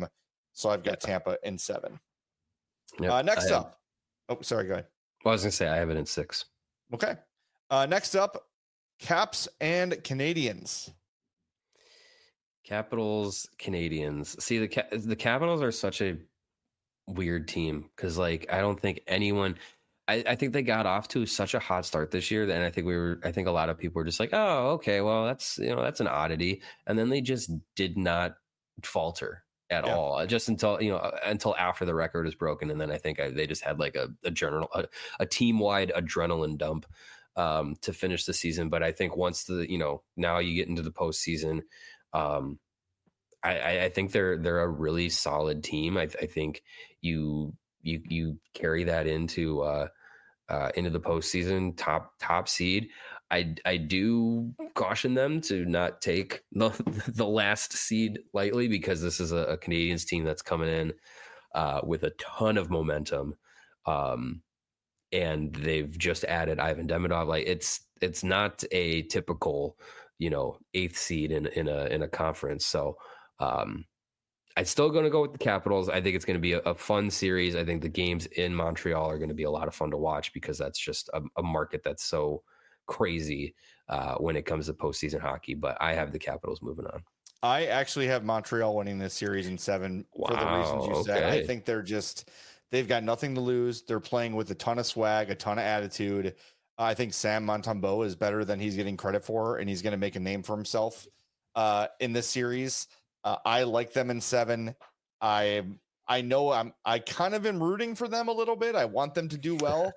So I've got Tampa in 7. Yep, next up. Oh, sorry. Go ahead. Well, I was going to say I have it in 6. Okay. Next up, Caps and Canadiens. Capitals, Canadiens. See, the Capitals are such a weird team because, like, I don't think anyone. I think they got off to such a hot start this year, and I think a lot of people were just like, oh, okay, well, that's an oddity, and then they just did not falter at all, just until after the record is broken, and then I think they just had like a team wide adrenaline dump to finish the season. But I think once now you get into the postseason, I think they're a really solid team. I think you carry that into the postseason, top seed. I do caution them to not take the last seed lightly, because this is a Canadiens team that's coming in with a ton of momentum, and they've just added Ivan Demidov. Like it's not a typical 8th seed in a conference. So I'm still going to go with the Capitals. I think it's going to be a fun series. I think the games in Montreal are going to be a lot of fun to watch, because that's just a market that's so crazy when it comes to postseason hockey. But I have the Capitals moving on. I actually have Montreal winning this series in 7 for the reasons you said. I think they've got nothing to lose. They're playing with a ton of swag, a ton of attitude. I think Sam Montembeault is better than he's getting credit for, and he's going to make a name for himself in this series. I like them in 7. I know I kind of am rooting for them a little bit. I want them to do well.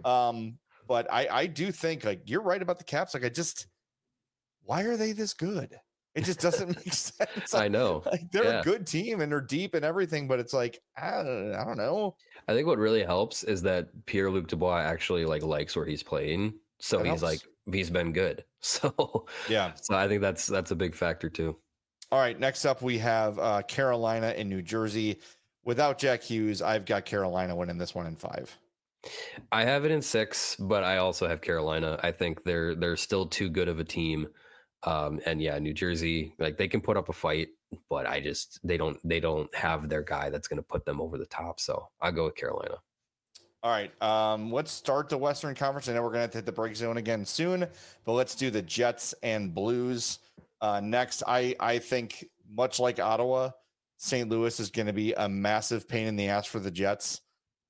But I do think, like, you're right about the Caps. Like, why are they this good? It just doesn't make sense. I know. Like, they're a good team and they're deep and everything, but it's like, I don't know. I think what really helps is that Pierre-Luc Dubois actually likes where he's playing. So he's been good. So yeah. So I think that's a big factor too. All right, next up we have Carolina and New Jersey. Without Jack Hughes, I've got Carolina winning this one in 5. I have it in 6, but I also have Carolina. I think they're still too good of a team. And yeah, New Jersey, like, they can put up a fight, but they don't have their guy that's going to put them over the top. So I'll go with Carolina. All right, let's start the Western Conference. I know we're going to hit the break zone again soon, but let's do the Jets and Blues. Next, I think, much like Ottawa, St. Louis is going to be a massive pain in the ass for the Jets.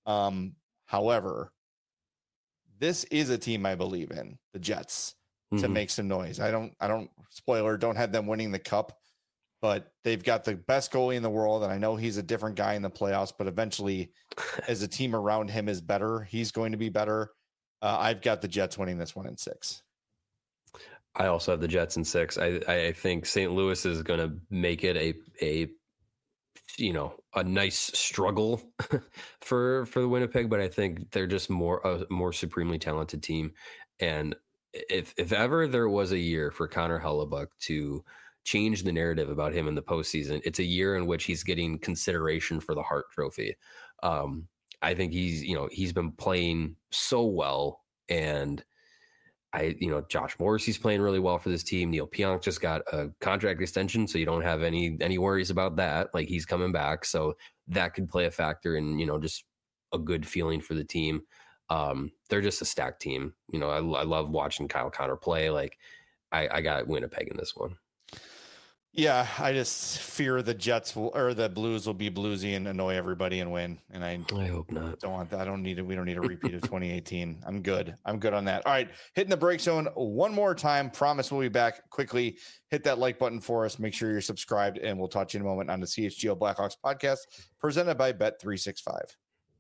However, this is a team I believe in, the Jets, to make some noise. I don't have them winning the cup, but they've got the best goalie in the world. And I know he's a different guy in the playoffs, but eventually as a team around him is better, he's going to be better. I've got the Jets winning this one in 6. I also have the Jets in 6. I think St. Louis is going to make it a nice struggle for the Winnipeg, but I think they're just a more supremely talented team. And if ever there was a year for Connor Hellebuyck to change the narrative about him in the postseason, it's a year in which he's getting consideration for the Hart Trophy. I think he's been playing so well, and Josh Morrissey's playing really well for this team. Neil Pionk just got a contract extension, so you don't have any worries about that. Like, he's coming back, so that could play a factor in, just a good feeling for the team. They're just a stacked team. I love watching Kyle Connor play. Like, I got Winnipeg in this one. Yeah, I just fear the Jets or the Blues will be bluesy and annoy everybody and win. And I hope not. Don't want that. We don't need a repeat of 2018. I'm good on that. All right, hitting the break zone one more time. Promise we'll be back quickly. Hit that like button for us. Make sure you're subscribed, and we'll talk to you in a moment on the CHGO Blackhawks podcast presented by Bet365.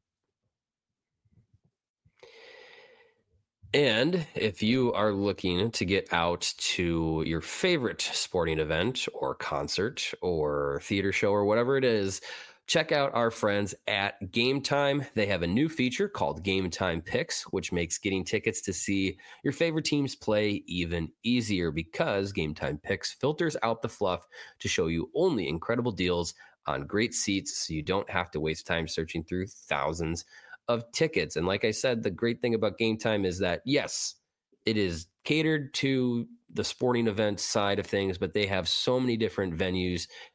And if you are looking to get out to your favorite sporting event or concert or theater show or whatever it is, check out our friends at Game Time. They have a new feature called Game Time Picks, which makes getting tickets to see your favorite teams play even easier, because Game Time Picks filters out the fluff to show you only incredible deals on great seats, so you don't have to waste time searching through thousands of tickets. And like I said, the great thing about Game Time is that, yes, it is catered to the sporting event side of things, but they have so many different venues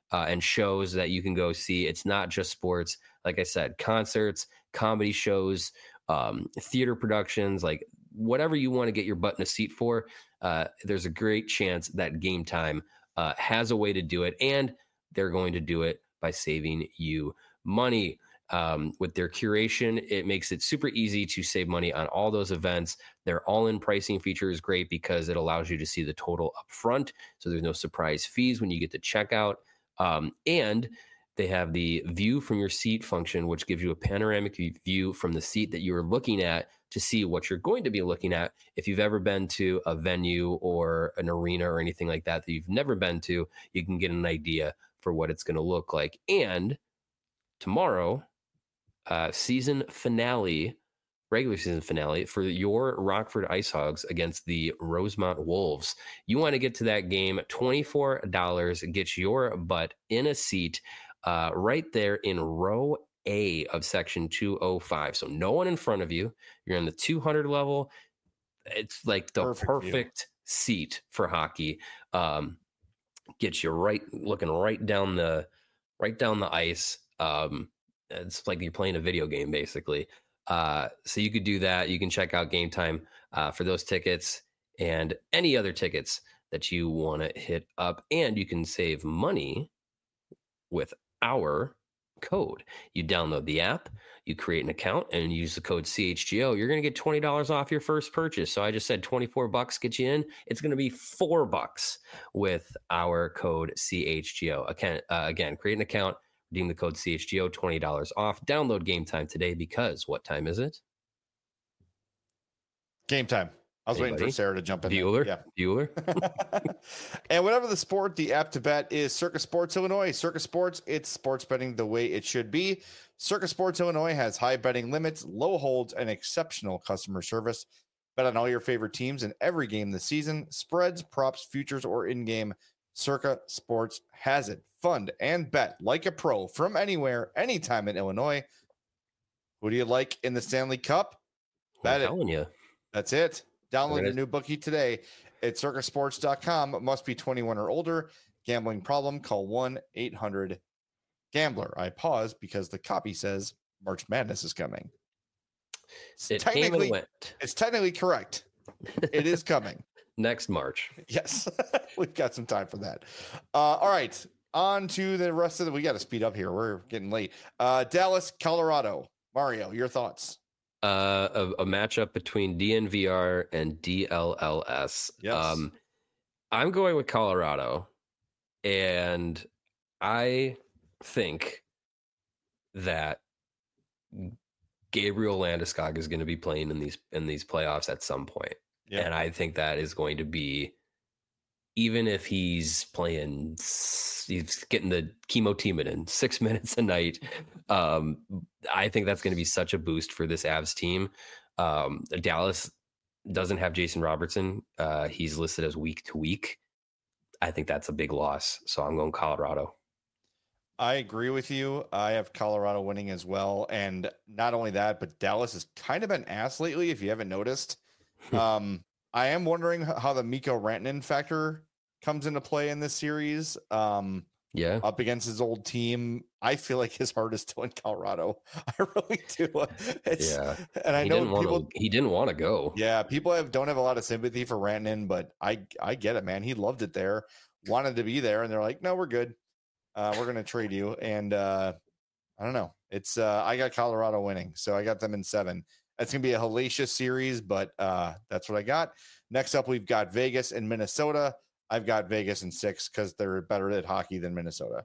and shows that you can go see. It's not just sports. Like I said, concerts, comedy shows, theater productions, like whatever you want to get your butt in a seat for. There's a great chance that Game Time has a way to do it, and they're going to do it by saving you money. With their curation, it makes it super easy to save money on all those events. Their all-in pricing feature is great because it allows you to see the total up front, so there's no surprise fees when you get to checkout. And they have the view from your seat function, which gives you a panoramic view from the seat that you're looking at to see what you're going to be looking at. If you've ever been to a venue or an arena or anything like that you've never been to, you can get an idea for what it's going to look like. And tomorrow, regular season finale for your Rockford Ice Hogs against the Rosemont Wolves. You want to get to that game, $24 gets your butt in a seat right there in row A of section 205. So no one in front of you. You're on the 200 level. It's like the perfect seat for hockey. Gets you looking right down the ice. It's like you're playing a video game, basically. So you could do that. You can check out Game Time for those tickets and any other tickets that you want to hit up. And you can save money with our code. You download the app, you create an account, and use the code CHGO. You're going to get $20 off your first purchase. So I just said $24 get you in. It's going to be $4 with our code CHGO. Again, create an account, redeem the code CHGO, $20 off. Download Game Time today because what time is it? Game time. I was waiting for Sarah to jump in. Bueller. And whatever the sport, the app to bet is Circa Sports Illinois. Circa Sports, it's sports betting the way it should be. Circa Sports Illinois has high betting limits, low holds, and exceptional customer service. Bet on all your favorite teams in every game this season. Spreads, props, futures, or in-game. Circa Sports has it. Fund and bet like a pro from anywhere, anytime in Illinois. Who do you like in the Stanley Cup? Bet it. You. That's it. Download your new bookie today at circasports.com. Must be 21 or older. Gambling problem? Call 1-800-GAMBLER. I pause because the copy says March Madness is coming. It came and went. It's technically correct. It is coming. Next March. Yes. We've got some time for that. All right. On to the rest of we got to speed up here. We're getting late. Dallas, Colorado. Mario, your thoughts? A matchup between DNVR and DLLS. Yes. I'm going with Colorado, and I think that Gabriel Landeskog is going to be playing in these playoffs at some point. Yep. And I think that is going to be, even if he's getting the chemotherapy 6 minutes a night, I think that's going to be such a boost for this Avs team. Dallas doesn't have Jason Robertson. He's listed as week to week. I think that's a big loss. So I'm going Colorado. I agree with you. I have Colorado winning as well. And not only that, but Dallas has kind of been ass lately, if you haven't noticed. I am wondering how the Mikko Rantanen factor comes into play in this series. Up against his old team. I feel like his heart is still in Colorado. I really do. And I know he didn't want to go. Yeah, people don't have a lot of sympathy for Rantanen, but I get it, man. He loved it there, wanted to be there, and they're like, no, we're good. We're gonna trade you. And I don't know. It's I got Colorado winning, so I got them in 7. That's going to be a hellacious series, but that's what I got. Next up, we've got Vegas and Minnesota. I've got Vegas in 6 because they're better at hockey than Minnesota.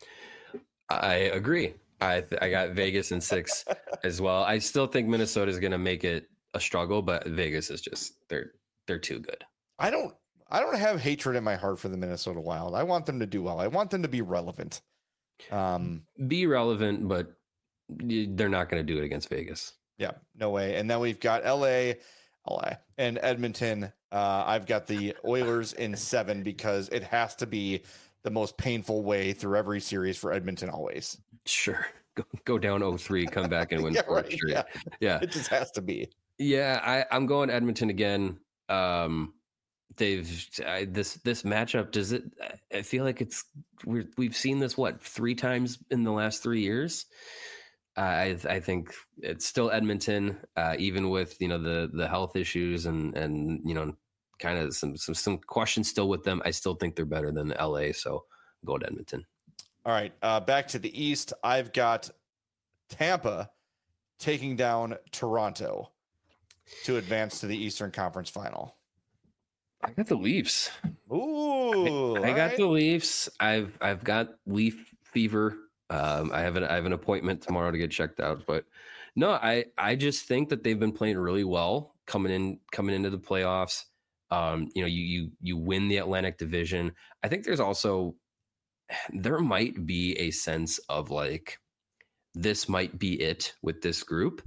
I agree. I got Vegas in 6 as well. I still think Minnesota is going to make it a struggle, but Vegas is just they're too good. I don't have hatred in my heart for the Minnesota Wild. I want them to do well. I want them to be relevant. Be relevant, but they're not going to do it against Vegas. Yeah, no way. And then we've got LA, and Edmonton. I've got the Oilers in 7 because it has to be the most painful way through every series for Edmonton always. Sure. Go down 0-3, come back and win 4 straight. Yeah. It just has to be. Yeah, I'm going Edmonton again. this matchup, does it? I feel like we've seen this 3 times in the last 3 years. I think it's still Edmonton, even with the health issues and kind of some questions still with them. I still think they're better than LA, so go to Edmonton. All right, back to the East. I've got Tampa taking down Toronto to advance to the Eastern Conference Final. I got the Leafs. Ooh, I got the Leafs. I've got Leaf fever. I have an appointment tomorrow to get checked out, but no, I just think that they've been playing really well coming into the playoffs. You win the Atlantic Division. I think there might be a sense of like, this might be it with this group.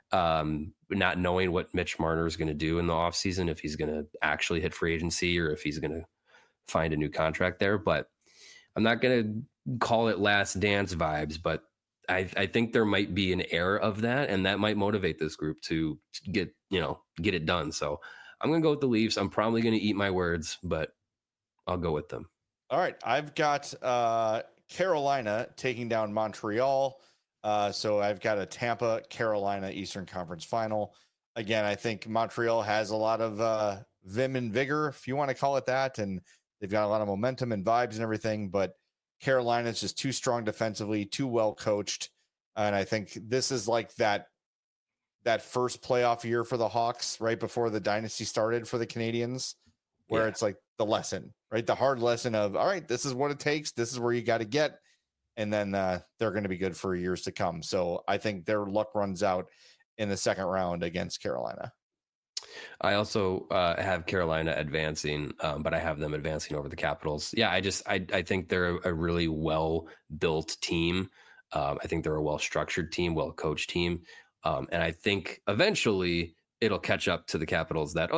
Not knowing what Mitch Marner is going to do in the offseason, if he's going to actually hit free agency or if he's going to find a new contract there. But I'm not going to call it last dance vibes, but I think there might be an air of that, and that might motivate this group to get it done. So I'm going to go with the Leafs. I'm probably going to eat my words, but I'll go with them. All right. I've got Carolina taking down Montreal. So I've got a Tampa Carolina Eastern Conference Final. Again, I think Montreal has a lot of vim and vigor, if you want to call it that, and they've got a lot of momentum and vibes and everything, but Carolina is just too strong defensively, too well coached. And I think this is like that first playoff year for the Hawks right before the dynasty started for the Canadians, where it's like the lesson, right? The hard lesson of, all right, this is what it takes. This is where you got to get. And then they're going to be good for years to come. So I think their luck runs out in the second round against Carolina. I also have Carolina advancing, but I have them advancing over the Capitals. Yeah, I think they're a really well-built team. I think they're a well-structured team, well-coached team. And I think eventually it'll catch up to the Capitals that,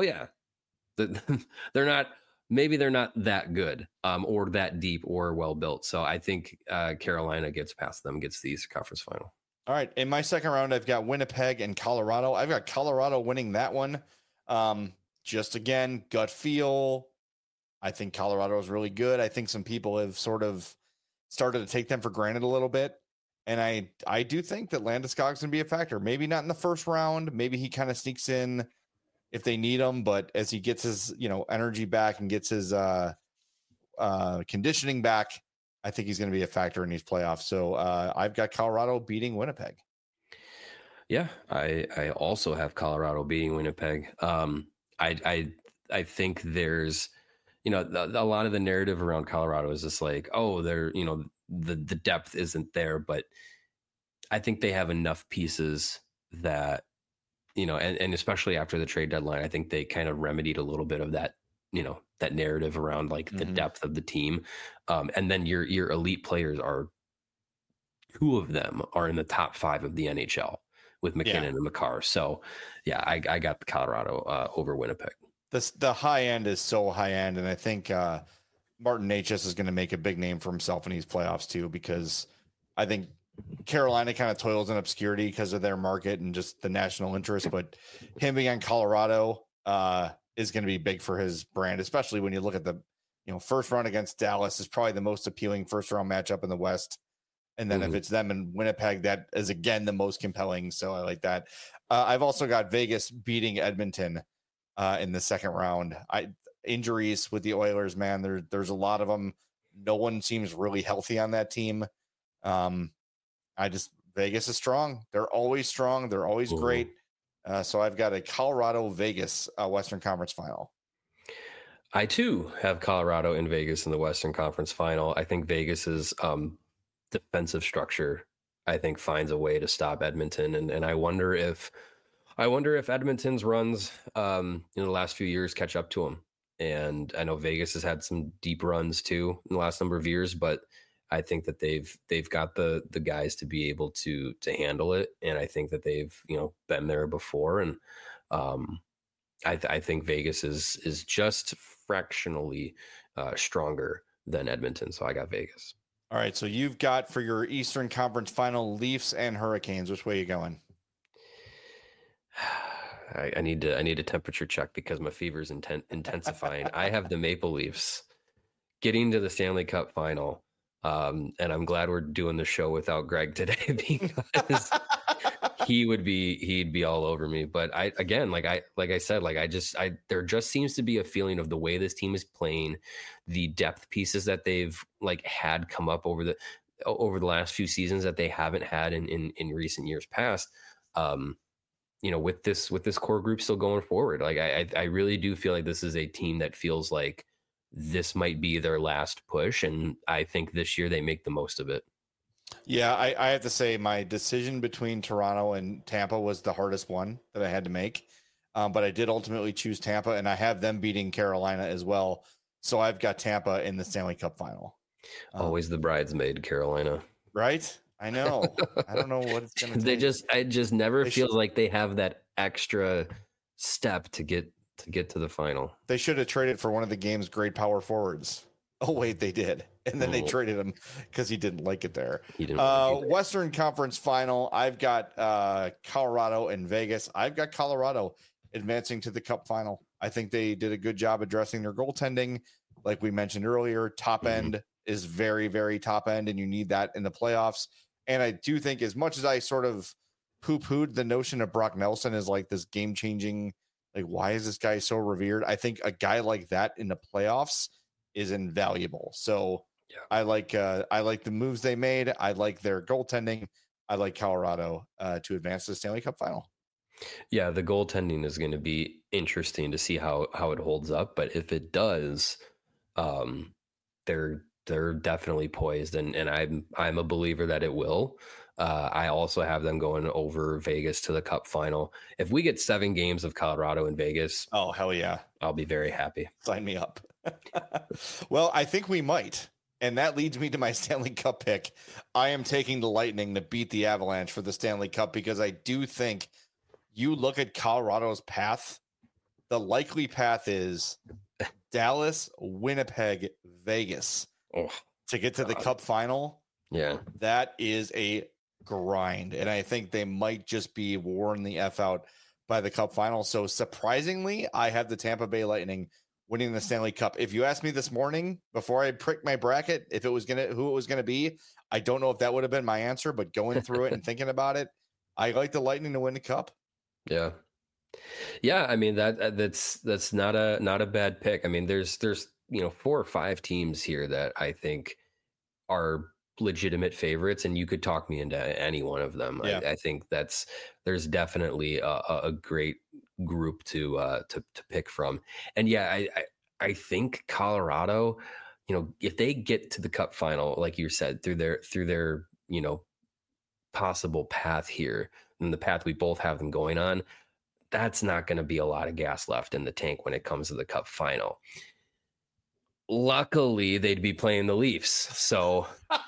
maybe they're not that good or that deep or well-built. So I think Carolina gets past them, gets the Eastern Conference Final. All right. In my second round, I've got Winnipeg and Colorado. I've got Colorado winning that one. Just again, gut feel. I think Colorado is really good. I think some people have sort of started to take them for granted a little bit. And I do think that Landeskog's going to be a factor. Maybe not in the first round. Maybe he kind of sneaks in if they need him. But as he gets his, energy back and gets his conditioning back, I think he's going to be a factor in these playoffs. So I've got Colorado beating Winnipeg. Yeah, I also have Colorado beating Winnipeg. I think there's, a lot of the narrative around Colorado is just like, they're, the depth isn't there, but I think they have enough pieces that, and especially after the trade deadline, I think they kind of remedied a little bit of that, that narrative around like the depth of the team. And then your elite players two of them are in the top 5 of the NHL with McKinnon and Makar. So yeah, I got Colorado over Winnipeg. The high end is so high end. And I think Martin Necas is going to make a big name for himself in these playoffs too, because I think Carolina kind of toils in obscurity because of their market and just the national interest, but him being on Colorado is going to be big for his brand, especially when you look at the, first round against Dallas is probably the most appealing first round matchup in the West. And then if it's them in Winnipeg, that is again the most compelling. So I like that. I've also got Vegas beating Edmonton in the second round. Injuries with the Oilers, man, there's a lot of them. No one seems really healthy on that team. Vegas is strong. They're always strong. They're always great. So I've got a Colorado Vegas Western Conference Final. I too have Colorado and Vegas in the Western Conference Final. I think Vegas's defensive structure, I think, finds a way to stop Edmonton, and I wonder if Edmonton's runs in the last few years catch up to them. And I know Vegas has had some deep runs too in the last number of years, but I think that they've got the guys to be able to handle it, and I think that they've been there before, and I think Vegas is just fractionally stronger than Edmonton, so I got Vegas. All right, so you've got for your Eastern Conference Final Leafs and Hurricanes. Which way are you going? I need a temperature check because my fever's intensifying. I have the Maple Leafs getting to the Stanley Cup final. And I'm glad we're doing the show without Greg today because he'd be all over me. But there just seems to be a feeling of the way this team is playing, the depth pieces that they've had come up over the last few seasons that they haven't had in recent years past. With this core group still going forward, I really do feel like this is a team that feels like this might be their last push, and I think this year they make the most of it. Yeah, I have to say my decision between Toronto and Tampa was the hardest one that I had to make, but I did ultimately choose Tampa, and I have them beating Carolina as well. So I've got Tampa in the Stanley Cup final. Always the bridesmaid, Carolina. Right? I know. I don't know what it's going to take. It just never feels like they have that extra step to get to the final. They should have traded for one of the game's great power forwards. Oh, wait, they did. And then they traded him because he didn't like it there. He didn't like it. Western Conference final. I've got Colorado and Vegas. I've got Colorado advancing to the Cup final. I think they did a good job addressing their goaltending. Like we mentioned earlier, top end is very, very top end, and you need that in the playoffs. And I do think, as much as I sort of poo-pooed the notion of Brock Nelson as like this game-changing, like, why is this guy so revered? I think a guy like that in the playoffs is invaluable. So yeah. I like the moves they made. I like their goaltending. I like Colorado to advance to the Stanley Cup final. Yeah, the goaltending is going to be interesting to see how it holds up. But if it does, they're definitely poised, and I'm a believer that it will. I also have them going over Vegas to the Cup final. If we get 7 games of Colorado in Vegas, oh hell yeah, I'll be very happy. Sign me up. Well, I think we might, and that leads me to my Stanley Cup pick. I am taking the Lightning to beat the Avalanche for the Stanley Cup because I do think you look at Colorado's path. The likely path is Dallas, Winnipeg, Vegas. To get to the Cup final. Yeah, that is a grind, and I think they might just be worn the F out by the Cup final. So surprisingly, I have the Tampa Bay Lightning winning the Stanley Cup. If you asked me this morning before I pricked my bracket who it was gonna be, I don't know if that would have been my answer, but going through it and thinking about it, I like the Lightning to win the Cup. Yeah. I mean that's not a bad pick. I mean, there's 4 or 5 teams here that I think are legitimate favorites, and you could talk me into any one of them. Yeah. I think there's definitely a great group to pick from. And yeah, I think Colorado, if they get to the Cup final, like you said, through their possible path here, and the path we both have them going on, that's not going to be a lot of gas left in the tank when it comes to the Cup final. Luckily, they'd be playing the Leafs. So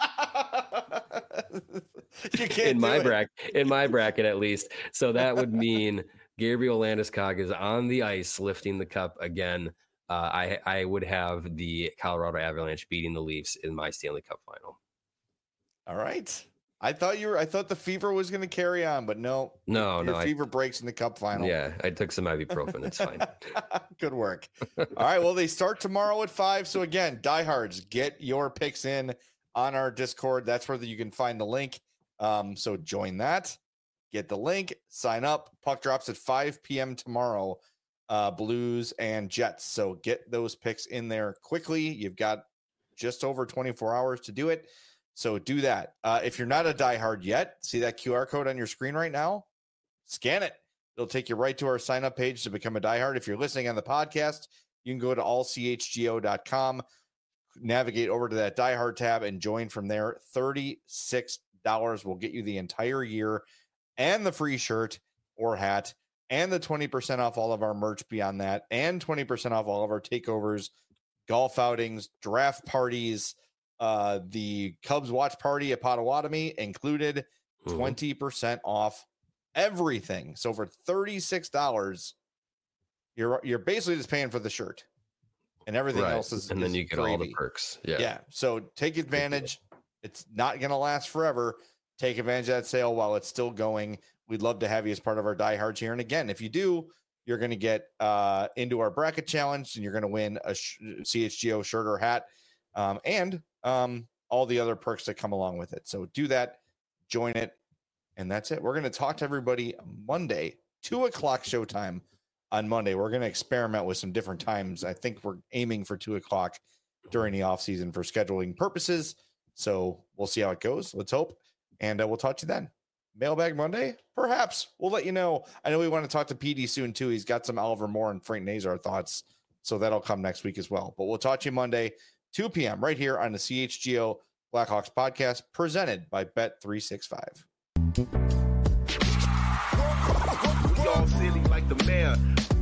you can't in my bracket at least. So that would mean Gabriel Landeskog is on the ice lifting the cup again. I would have the Colorado Avalanche beating the Leafs in my Stanley Cup final. All right. I thought the fever was going to carry on, but no. Fever breaks in the Cup final. Yeah, I took some ibuprofen. It's fine. Good work. All right. Well, they start tomorrow at 5. So again, diehards, get your picks in on our Discord. That's where you can find the link. So join that. Get the link. Sign up. Puck drops at 5 p.m. tomorrow. Blues and Jets. So get those picks in there quickly. You've got just over 24 hours to do it. So do that. If you're not a diehard yet, see that QR code on your screen right now? Scan it. It'll take you right to our sign up page to become a diehard. If you're listening on the podcast, you can go to allchgo.com, navigate over to that diehard tab, and join from there. $36 will get you the entire year and the free shirt or hat and the 20% off all of our merch beyond that, and 20% off all of our takeovers, golf outings, draft parties, the Cubs watch party at Potawatomi included, 20% off everything. So for $36, you're basically just paying for the shirt, and everything else is, and then you get gravy. All the perks. Yeah. So take advantage. It's not going to last forever. Take advantage of that sale while it's still going. we'd love to have you as part of our diehards here. And again, if you do, you're going to get into our bracket challenge, and you're going to win a CHGO shirt or hat, and all the other perks that come along with it. So do that, join it, and that's it. We're going to talk to everybody Monday, 2:00 showtime on Monday. We're going to experiment with some different times. I think we're aiming for 2:00 during the off season for scheduling purposes. So we'll see how it goes. Let's hope. And we'll talk to you then. Mailbag Monday? Perhaps. We'll let you know. I know we want to talk to PD soon, too. He's got some Oliver Moore and Frank Nazar thoughts. So that'll come next week as well. But we'll talk to you Monday, 2 p.m. right here on the CHGO Blackhawks podcast, presented by Bet365. Y'all silly like the mayor.